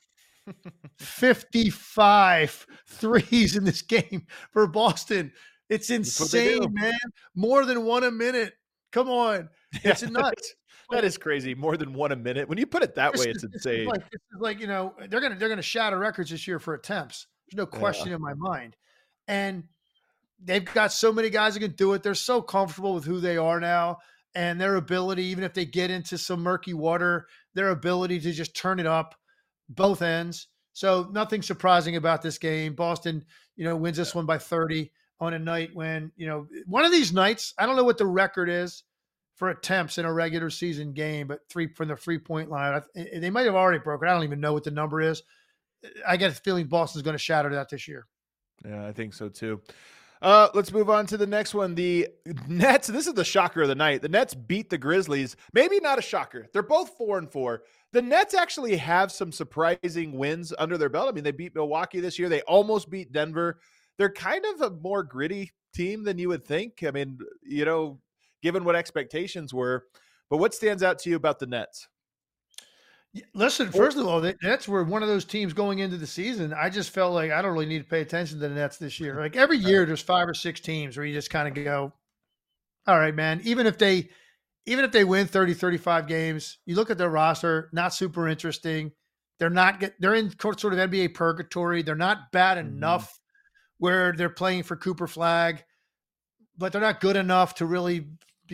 55 threes in this game for Boston. It's insane, man. More than 1 a minute. Come on. It's nuts. That is crazy. More than 1 a minute. When you put it that way, it's insane. This is like, they're gonna shatter records this year for attempts. There's no question in my mind. And they've got so many guys that can do it. They're so comfortable with who they are now and their ability, even if they get into some murky water, their ability to just turn it up both ends. So nothing surprising about this game. Boston, wins this one by 30 on a night when, one of these nights, I don't know what the record is for attempts in a regular season game, but 3 from the 3-point line, they might have already broken. I don't even know what the number is. I get a feeling Boston's going to shatter that this year. Yeah, I think so too. Let's move on to the next one. The Nets, this is the shocker of the night. The Nets beat the Grizzlies. Maybe not a shocker. They're both 4-4. The Nets actually have some surprising wins under their belt. I mean, they beat Milwaukee this year. They almost beat Denver. They're kind of a more gritty team than you would think. I mean, given what expectations were. But what stands out to you about the Nets? Listen, Or first of all, the Nets were one of those teams going into the season. I just felt like I don't really need to pay attention to the Nets this year. Like every year, there's 5 or 6 teams where you just kind of go, all right, man. Even if they win 30, 35 games, you look at their roster, not super interesting. They're in sort of NBA purgatory. They're not bad Mhm. enough where they're playing for Cooper Flag, but they're not good enough to really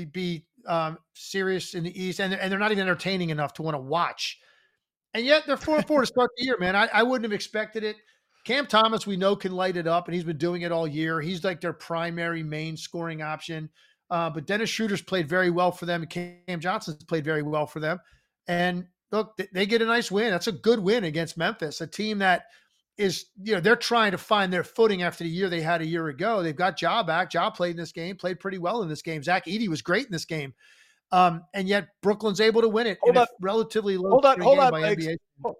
be serious in the East, and they're not even entertaining enough to want to watch. And yet they're 4-4 to start the year, man. I wouldn't have expected it. Cam Thomas, we know, can light it up, and he's been doing it all year. He's like their primary main scoring option. But Dennis Schroeder's played very well for them. Cam Johnson's played very well for them. And look, they get a nice win. That's a good win against Memphis, a team that is, they're trying to find their footing after the year they had a year ago. They've got Ja back. Ja played in this game, played pretty well in this game. Zach Edey was great in this game. And yet Brooklyn's able to win it in hold a on, relatively low hold on, scoring hold game on, by Legs. NBA.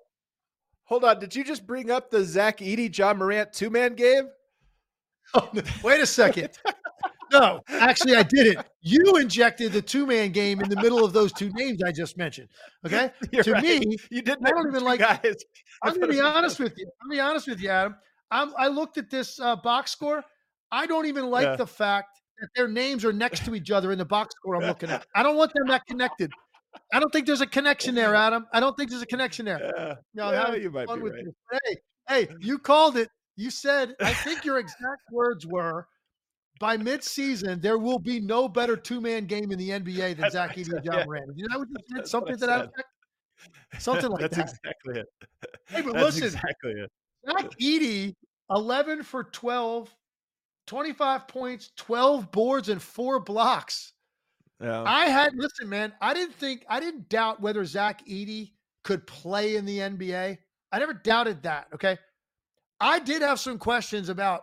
Hold on. Did you just bring up the Zach Edey, John Morant 2-man game? Wait a second. No, actually, I didn't. You injected the 2-man game in the middle of those 2 names I just mentioned. Okay. You're To right. me, You did I don't mention even 2 like, guys. I'm going to be honest with you. I'm going to be honest with you, Adam. I looked at this box score. I don't even like Yeah. the fact that their names are next to each other in the box score I'm looking at. I don't want them that connected. I don't think there's a connection there, Adam. I don't think there's a connection there. Yeah. No, I'm Yeah, having you might be fun with right. you. Hey, you called it. You said, I think your exact words were, by midseason, there will be no better 2-man game in the NBA than That's what Zach I Edey said. and John Yeah, Morant. You know what you said? that's what I Something to that said. effect? Something like That's that. exactly it. Hey, but That's listen, exactly it. Zach Edey, 11 for 12, 25 points, 12 boards, and 4 blocks. Yeah. Listen, man, I didn't doubt whether Zach Edey could play in the NBA. I never doubted that. Okay. I did have some questions about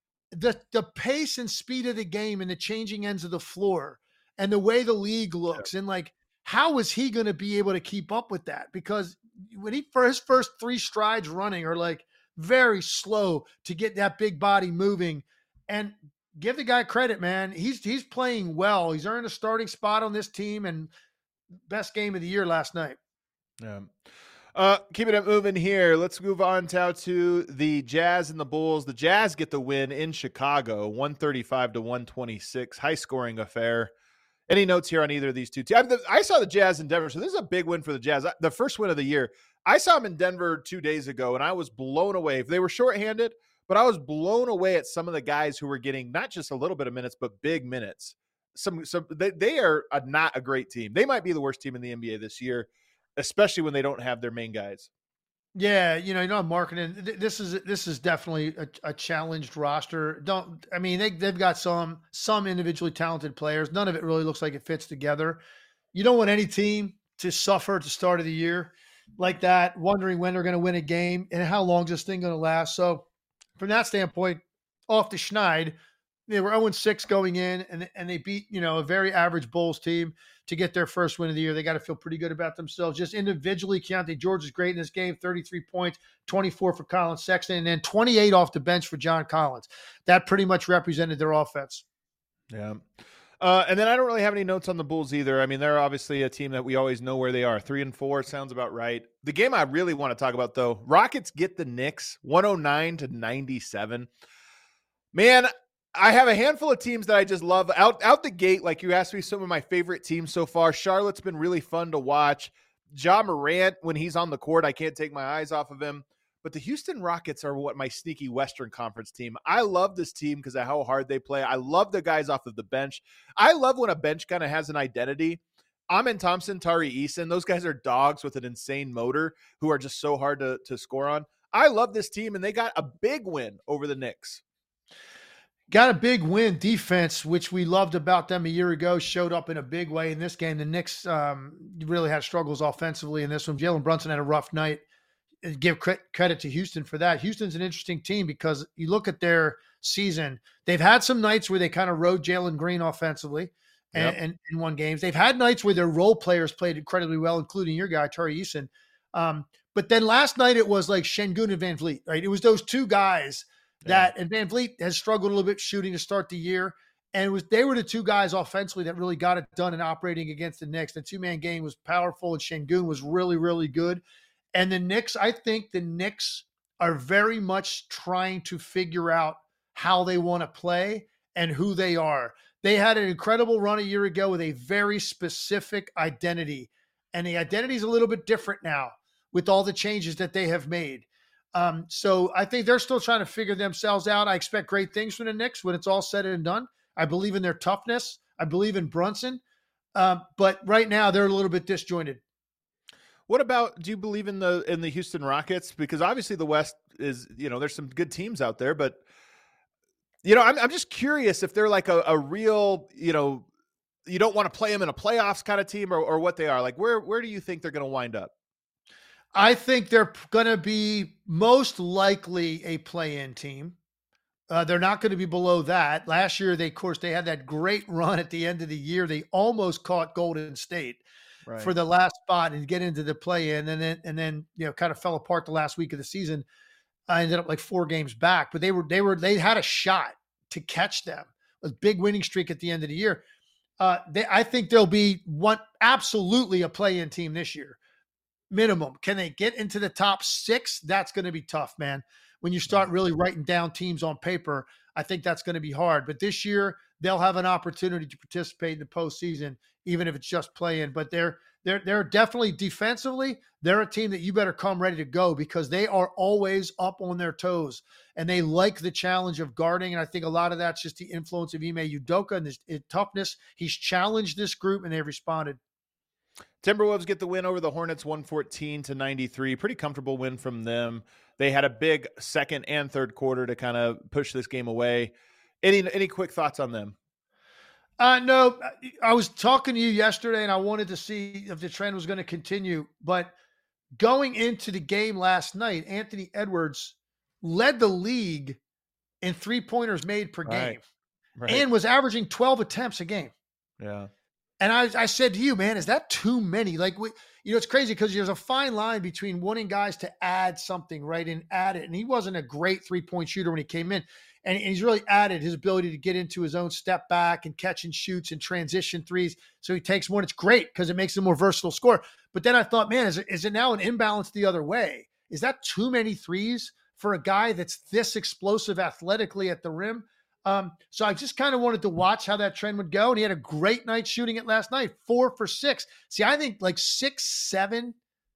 the pace and speed of the game and the changing ends of the floor and the way the league looks, and like, how is he going to be able to keep up with that? Because for his first 3 strides running are like very slow to get that big body moving. And give the guy credit, man. He's playing well. He's earned a starting spot on this team, and best game of the year last night. Yeah. Keeping it moving here. Let's move on now to the Jazz and the Bulls. The Jazz get the win in Chicago, 135-126. High scoring affair. Any notes here on either of these two teams? I saw the Jazz in Denver, so this is a big win for the Jazz. The first win of the year. I saw them in Denver 2 days ago, and I was blown away. They were shorthanded, but I was blown away at some of the guys who were getting not just a little bit of minutes, but big minutes. They are not a great team. They might be the worst team in the NBA this year, especially when they don't have their main guys. Yeah, marketing. This is definitely a challenged roster. They've got some individually talented players. None of it really looks like it fits together. You don't want any team to suffer at the start of the year like that, wondering when they're going to win a game and how long is this thing going to last. So, from that standpoint, off the schneid, they were 0-6 going in, and they beat a very average Bulls team to get their first win of the year. They got to feel pretty good about themselves. Just individually, Keontae George is great in this game, 33 points, 24 for Colin Sexton, and then 28 off the bench for John Collins. That pretty much represented their offense. Yeah. And then I don't really have any notes on the Bulls either. I mean, they're obviously a team that we always know where they are. 3-4 sounds about right. The game I really want to talk about, though, Rockets get the Knicks 109-97. Man, I have a handful of teams that I just love out the gate. Like you asked me, some of my favorite teams so far. Charlotte's been really fun to watch. Ja Morant, when he's on the court, I can't take my eyes off of him. But the Houston Rockets are what my sneaky Western Conference team. I love this team because of how hard they play. I love the guys off of the bench. I love when a bench kind of has an identity. Amin Thompson, Tari Eason, those guys are dogs with an insane motor who are just so hard to score on. I love this team, and they got a big win over the Knicks. Got a big win. Defense, which we loved about them a year ago, showed up in a big way in this game. The Knicks really had struggles offensively in this one. Jalen Brunson had a rough night. Give credit to Houston for that. Houston's an interesting team because you look at their season. They've had some nights where they kind of rode Jalen Green offensively and won games. They've had nights where their role players played incredibly well, including your guy, Tari Eason. But then last night it was like Şengün and Van Vliet, right? It was those two guys and Van Vliet has struggled a little bit shooting to start the year. And they were the two guys offensively that really got it done in operating against the Knicks. The two-man game was powerful, and Şengün was really, really good. And the Knicks, I think the Knicks are very much trying to figure out how they want to play and who they are. They had an incredible run a year ago with a very specific identity. And the identity is a little bit different now with all the changes that they have made. So I think they're still trying to figure themselves out. I expect great things from the Knicks when it's all said and done. I believe in their toughness. I believe in Brunson. But right now they're a little bit disjointed. What about, do you believe in the Houston Rockets? Because obviously the West is, there's some good teams out there, but I'm just curious if they're like a real, you don't want to play them in a playoffs kind of team or what they are. Like, where do you think they're going to wind up? I think they're going to be most likely a play-in team. They're not going to be below that. Last year, they had that great run at the end of the year. They almost caught Golden State for the last spot and get into the play-in, and then kind of fell apart the last week of the season. I ended up like 4 games back, but they had a shot to catch them. A big winning streak at the end of the year. I think they'll be absolutely a play-in team this year, minimum. Can they get into the top 6? That's going to be tough, man. When you start really writing down teams on paper, I think that's going to be hard. But this year, they'll have an opportunity to participate in the postseason, even if it's just play-in. But they're definitely defensively, they're a team that you better come ready to go because they are always up on their toes. And they like the challenge of guarding. And I think a lot of that's just the influence of Ime Udoka and his toughness. He's challenged this group, and they've responded. Timberwolves get the win over the Hornets 114-93. Pretty comfortable win from them. They had a big second and third quarter to kind of push this game away. Any quick thoughts on them? No, I was talking to you yesterday and I wanted to see if the trend was going to continue. But going into the game last night, Anthony Edwards led the league in 3-pointers made per game and was averaging 12 attempts a game. Yeah. And I said to you, man, is that too many? Like, it's crazy because there's a fine line between wanting guys to add something, right, and add it. And he wasn't a great 3-point shooter when he came in. And he's really added his ability to get into his own step back and catch and shoots and transition threes. So he takes more, and it's great because it makes him a more versatile scorer. But then I thought, man, is it now an imbalance the other way? Is that too many threes for a guy that's this explosive athletically at the rim? So I just kind of wanted to watch how that trend would go. And he had a great night shooting it last night, 4 for 6. See, I think like 6, 7,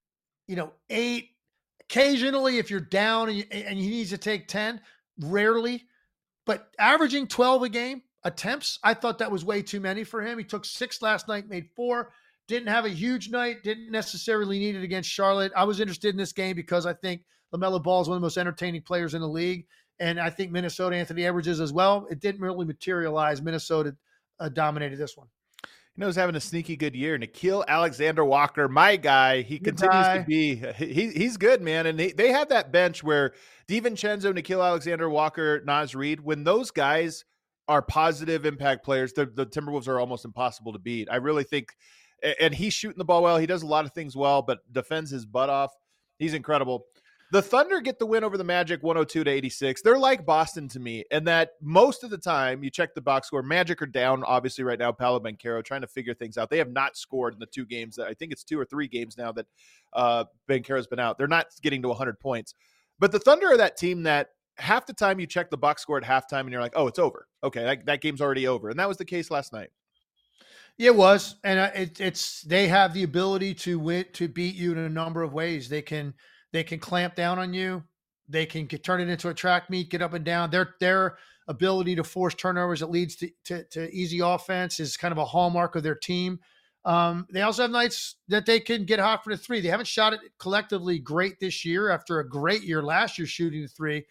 8, occasionally if you're down and he needs to take 10, rarely, but averaging 12 a game attempts, I thought that was way too many for him. He took 6 last night, made 4, didn't have a huge night, didn't necessarily need it against Charlotte. I was interested in this game because I think LaMelo Ball is one of the most entertaining players in the league. And I think Minnesota, Anthony Edwards is as well. It didn't really materialize. Minnesota dominated this one. He's having a sneaky good year. Nickeil Alexander-Walker, my guy, he continues to be he's good, man. And they have that bench where DiVincenzo, Nickeil Alexander-Walker, Naz Reid, when those guys are positive impact players, the Timberwolves are almost impossible to beat. I really think, and he's shooting the ball well. He does a lot of things well, but defends his butt off. He's incredible. The Thunder get the win over the Magic 102-86. They're like Boston to me, and that most of the time you check the box score, Magic are down, obviously, right now. Paolo Banchero trying to figure things out. They have not scored in the 2 games. I think it's 2 or 3 games now that Banchero's been out. They're not getting to 100 points. But the Thunder are that team that half the time you check the box score at halftime and you're like, oh, it's over. Okay, that game's already over. And that was the case last night. Yeah, it was. And they have the ability to beat you in a number of ways. They can clamp down on you. They can turn it into a track meet, get up and down. Their ability to force turnovers that leads to easy offense is kind of a hallmark of their team. They also have nights that they can get hot for the 3. They haven't shot it collectively great this year after a great year last year shooting the 3.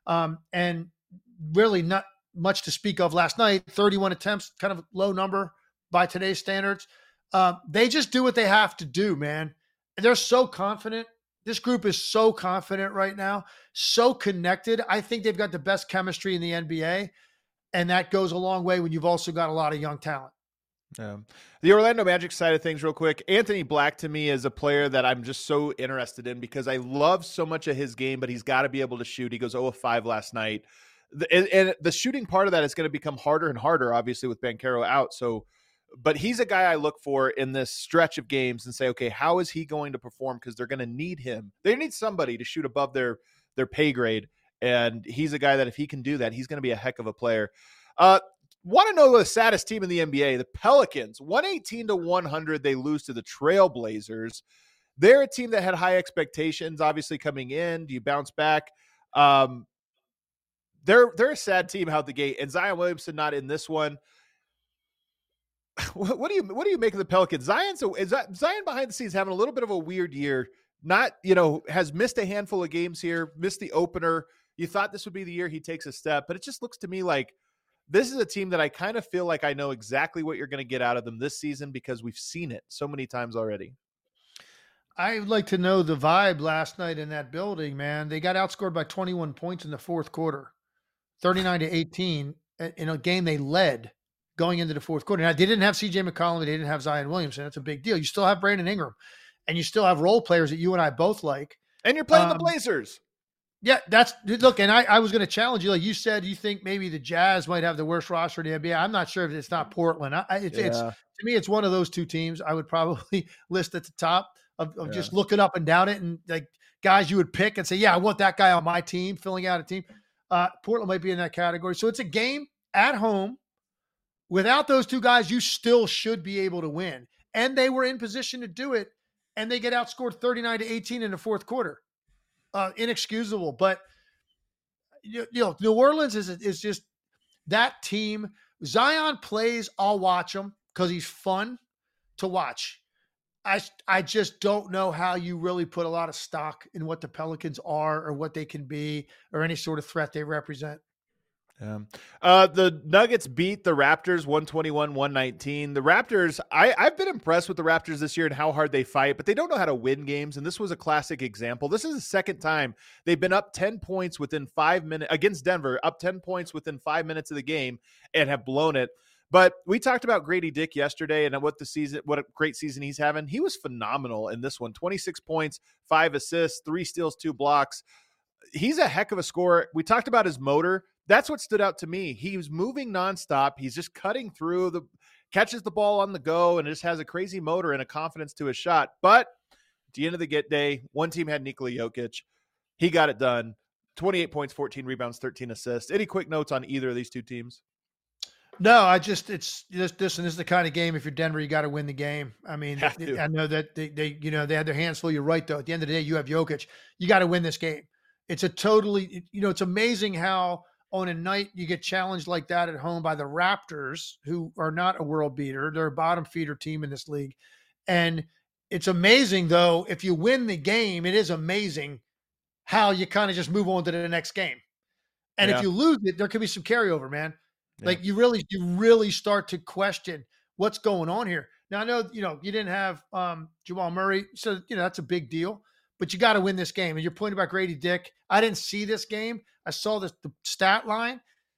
And really not much to speak of last night. 31 attempts, kind of low number by today's standards. They just do what they have to do, man. And they're so confident. This group is so confident right now, so connected. I think they've got the best chemistry in the NBA, and that goes a long way when you've also got a lot of young talent. The Orlando Magic side of things real quick. Anthony Black to me is a player that I'm just so interested in because I love so much of his game, but he's got to be able to shoot. He goes 0 of 5 last night. And the shooting part of that is going to become harder and harder, obviously, with Banchero out. So, but he's a guy I look for in this stretch of games and say, okay, how is he going to perform? Because they're going to need him. They need somebody to shoot above their pay grade. And he's a guy that if he can do that, he's going to be a heck of a player. Want to know the saddest team in the NBA? The Pelicans, 118-100. They lose to the Trailblazers. They're a team that had high expectations, obviously, coming in. Do you bounce back? They're a sad team out the gate, and Zion Williamson not in this one. What do you make of the Pelicans? Zion behind the scenes having a little bit of a weird year. Not, has missed a handful of games here, missed the opener. You thought this would be the year he takes a step, but it just looks to me like this is a team that I kind of feel like I know exactly what you're going to get out of them this season because we've seen it so many times already. I would like to know the vibe last night in that building, man. They got outscored by 21 points in the fourth quarter, 39-18 in a game they led going into the fourth quarter. Now, they didn't have CJ McCollum. They didn't have Zion Williamson. That's a big deal. You still have Brandon Ingram, and you still have role players that you and I both like. And you're playing the Blazers. Yeah, look, and I was going to challenge you. Like you said, you think maybe the Jazz might have the worst roster in the NBA. I'm not sure if it's not Portland. It's to me, it's one of those two teams I would probably list at the top of just looking up and down it, and like guys you would pick and say, yeah, I want that guy on my team, filling out a team. Portland might be in that category. So it's a game at home. Without those two guys, you still should be able to win. And they were in position to do it, and they get outscored 39-18 in the fourth quarter. Inexcusable. But New Orleans is just that team. Zion plays, I'll watch him because he's fun to watch. I just don't know how you really put a lot of stock in what the Pelicans are or what they can be or any sort of threat they represent. The Nuggets beat the Raptors 121-119. The Raptors, I've been impressed with the Raptors this year and how hard they fight, but they don't know how to win games. And this was a classic example. This is the second time they've been up 10 points within 5 minutes against Denver, up 10 points within 5 minutes of the game and have blown it. But we talked about Grady Dick yesterday and what a great season he's having. He was phenomenal in this one. 26 points, 5 assists, 3 steals, 2 blocks. He's a heck of a scorer. We talked about his motor. That's what stood out to me. He was moving nonstop. He's just cutting through, catches the ball on the go, and just has a crazy motor and a confidence to his shot. But at the end of the day, one team had Nikola Jokic. He got it done. 28 points, 14 rebounds, 13 assists. Any quick notes on either of these two teams? No, this is the kind of game. If you're Denver, you got to win the game. I mean, I know that they had their hands full. You're right, though. At the end of the day, you have Jokic. You got to win this game. It's it's amazing how on a night you get challenged like that at home by the Raptors, who are not a world beater. They're a bottom feeder team in this league. And it's amazing, though, if you win the game, it is amazing how you kind of just move on to the next game. And if you lose it, there could be some carryover, man. Yeah. Like you really start to question what's going on here. Now, I know, you didn't have Jamal Murray, so, that's a big deal. But you got to win this game. And your point about Grady Dick, I didn't see this game. I saw the stat line.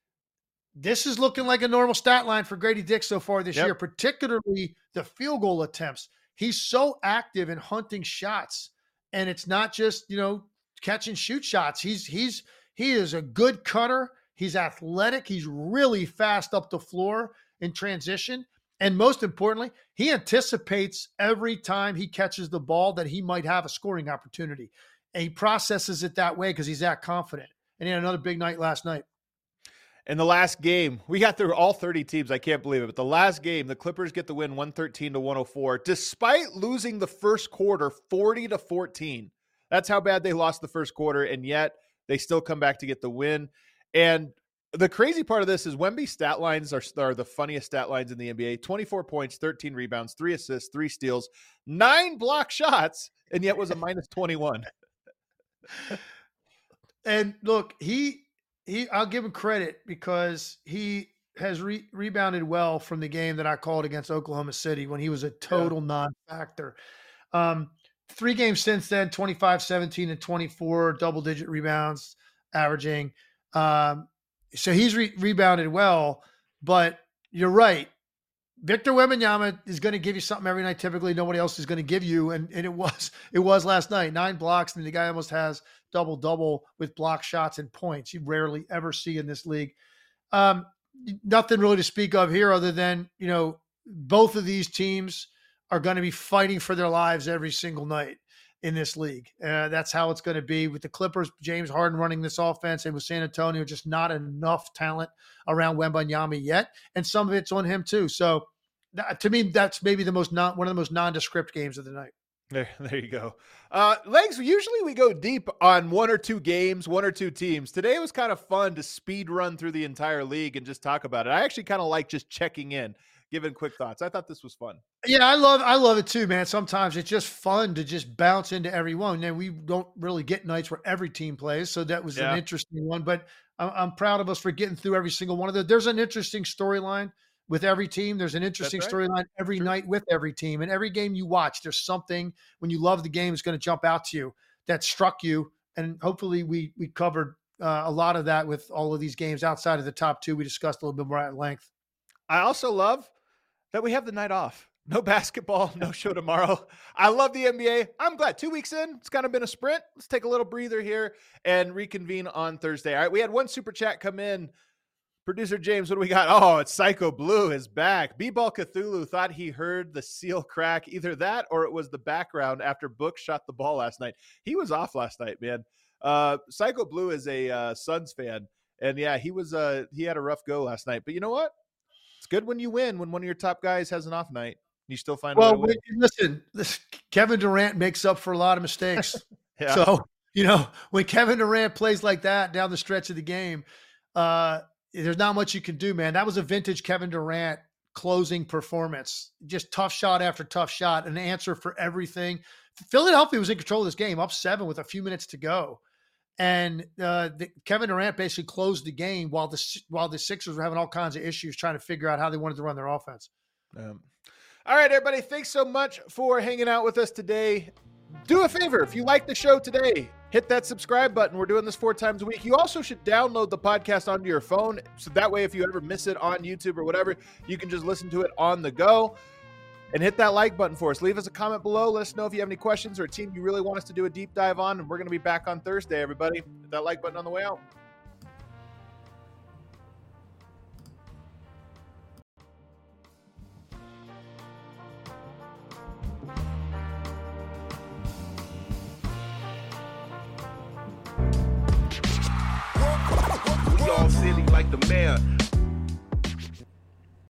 This is looking like a normal stat line for Grady Dick so far this year, particularly the field goal attempts. He's so active in hunting shots, and it's not just, catch and shoot shots. He is a good cutter. He's athletic. He's really fast up the floor in transition. And most importantly, he anticipates every time he catches the ball that he might have a scoring opportunity. And he processes it that way because he's that confident. And he had another big night last night. In the last game, we got through all 30 teams. I can't believe it. But the last game, the Clippers get the win 113-104, despite losing the first quarter 40-14. That's how bad they lost the first quarter. And yet they still come back to get the win. And the crazy part of this is Wemby's stat lines are the funniest stat lines in the NBA. 24 points, 13 rebounds, 3 assists, 3 steals, 9 block shots, and yet was a minus 21. And look, I'll give him credit because he has rebounded well from the game that I called against Oklahoma City when he was a total non-factor. 3 games since then, 25, 17, and 24, double-digit rebounds averaging. So he's rebounded well, but you're right. Victor Wembanyama is going to give you something every night. Typically, nobody else is going to give you, and it was last night. 9 blocks, and the guy almost has double-double with block shots and points. You rarely ever see in this league. Nothing really to speak of here other than, both of these teams are going to be fighting for their lives every single night in this league. That's how it's going to be with the Clippers, James Harden running this offense, and with San Antonio, just not enough talent around Wembanyama yet. And some of it's on him too. So to me, that's maybe one of the most nondescript games of the night. There you go. Legs, usually we go deep on one or two games, one or two teams. Today was kind of fun to speed run through the entire league and just talk about it. I actually kind of like just checking in, giving quick thoughts. I thought this was fun. Yeah, I love it too, man. Sometimes it's just fun to just bounce into everyone. And we don't really get nights where every team plays, so that was an interesting one. But I'm proud of us for getting through every single one of those. There's an interesting storyline with every team. There's an interesting storyline every night with every team. And every game you watch, there's something when you love the game is going to jump out to you that struck you. And hopefully we covered a lot of that with all of these games outside of the top two we discussed a little bit more at length. I also love that we have the night off. No basketball, no show tomorrow. I love the NBA. I'm glad 2 weeks in, it's kind of been a sprint. Let's take a little breather here and reconvene on Thursday. All right, we had one super chat come in. Producer James, what do we got? Oh, it's Psycho Blue is back. B-Ball Cthulhu thought he heard the seal crack. Either that or it was the background after Book shot the ball last night. He was off last night, man. Psycho Blue is a Suns fan. And yeah, he had a rough go last night. But you know what? It's good when you win, when one of your top guys has an off night. You still find a way to win. Listen, Kevin Durant makes up for a lot of mistakes. Yeah. So, when Kevin Durant plays like that down the stretch of the game, there's not much you can do, man. That was a vintage Kevin Durant closing performance. Just tough shot after tough shot, an answer for everything. Philadelphia was in control of this game, up 7 with a few minutes to go. And Kevin Durant basically closed the game while the Sixers were having all kinds of issues trying to figure out how they wanted to run their offense. All right, everybody, thanks so much for hanging out with us today. Do a favor, if you like the show today, hit that subscribe button. We're doing this 4 times a week. You also should download the podcast onto your phone, so that way if you ever miss it on YouTube or whatever, you can just listen to it on the go. And hit that like button for us. Leave us a comment below. Let us know if you have any questions or a team you really want us to do a deep dive on. And we're going to be back on Thursday, everybody. Hit that like button on the way out. We all silly like the mayor.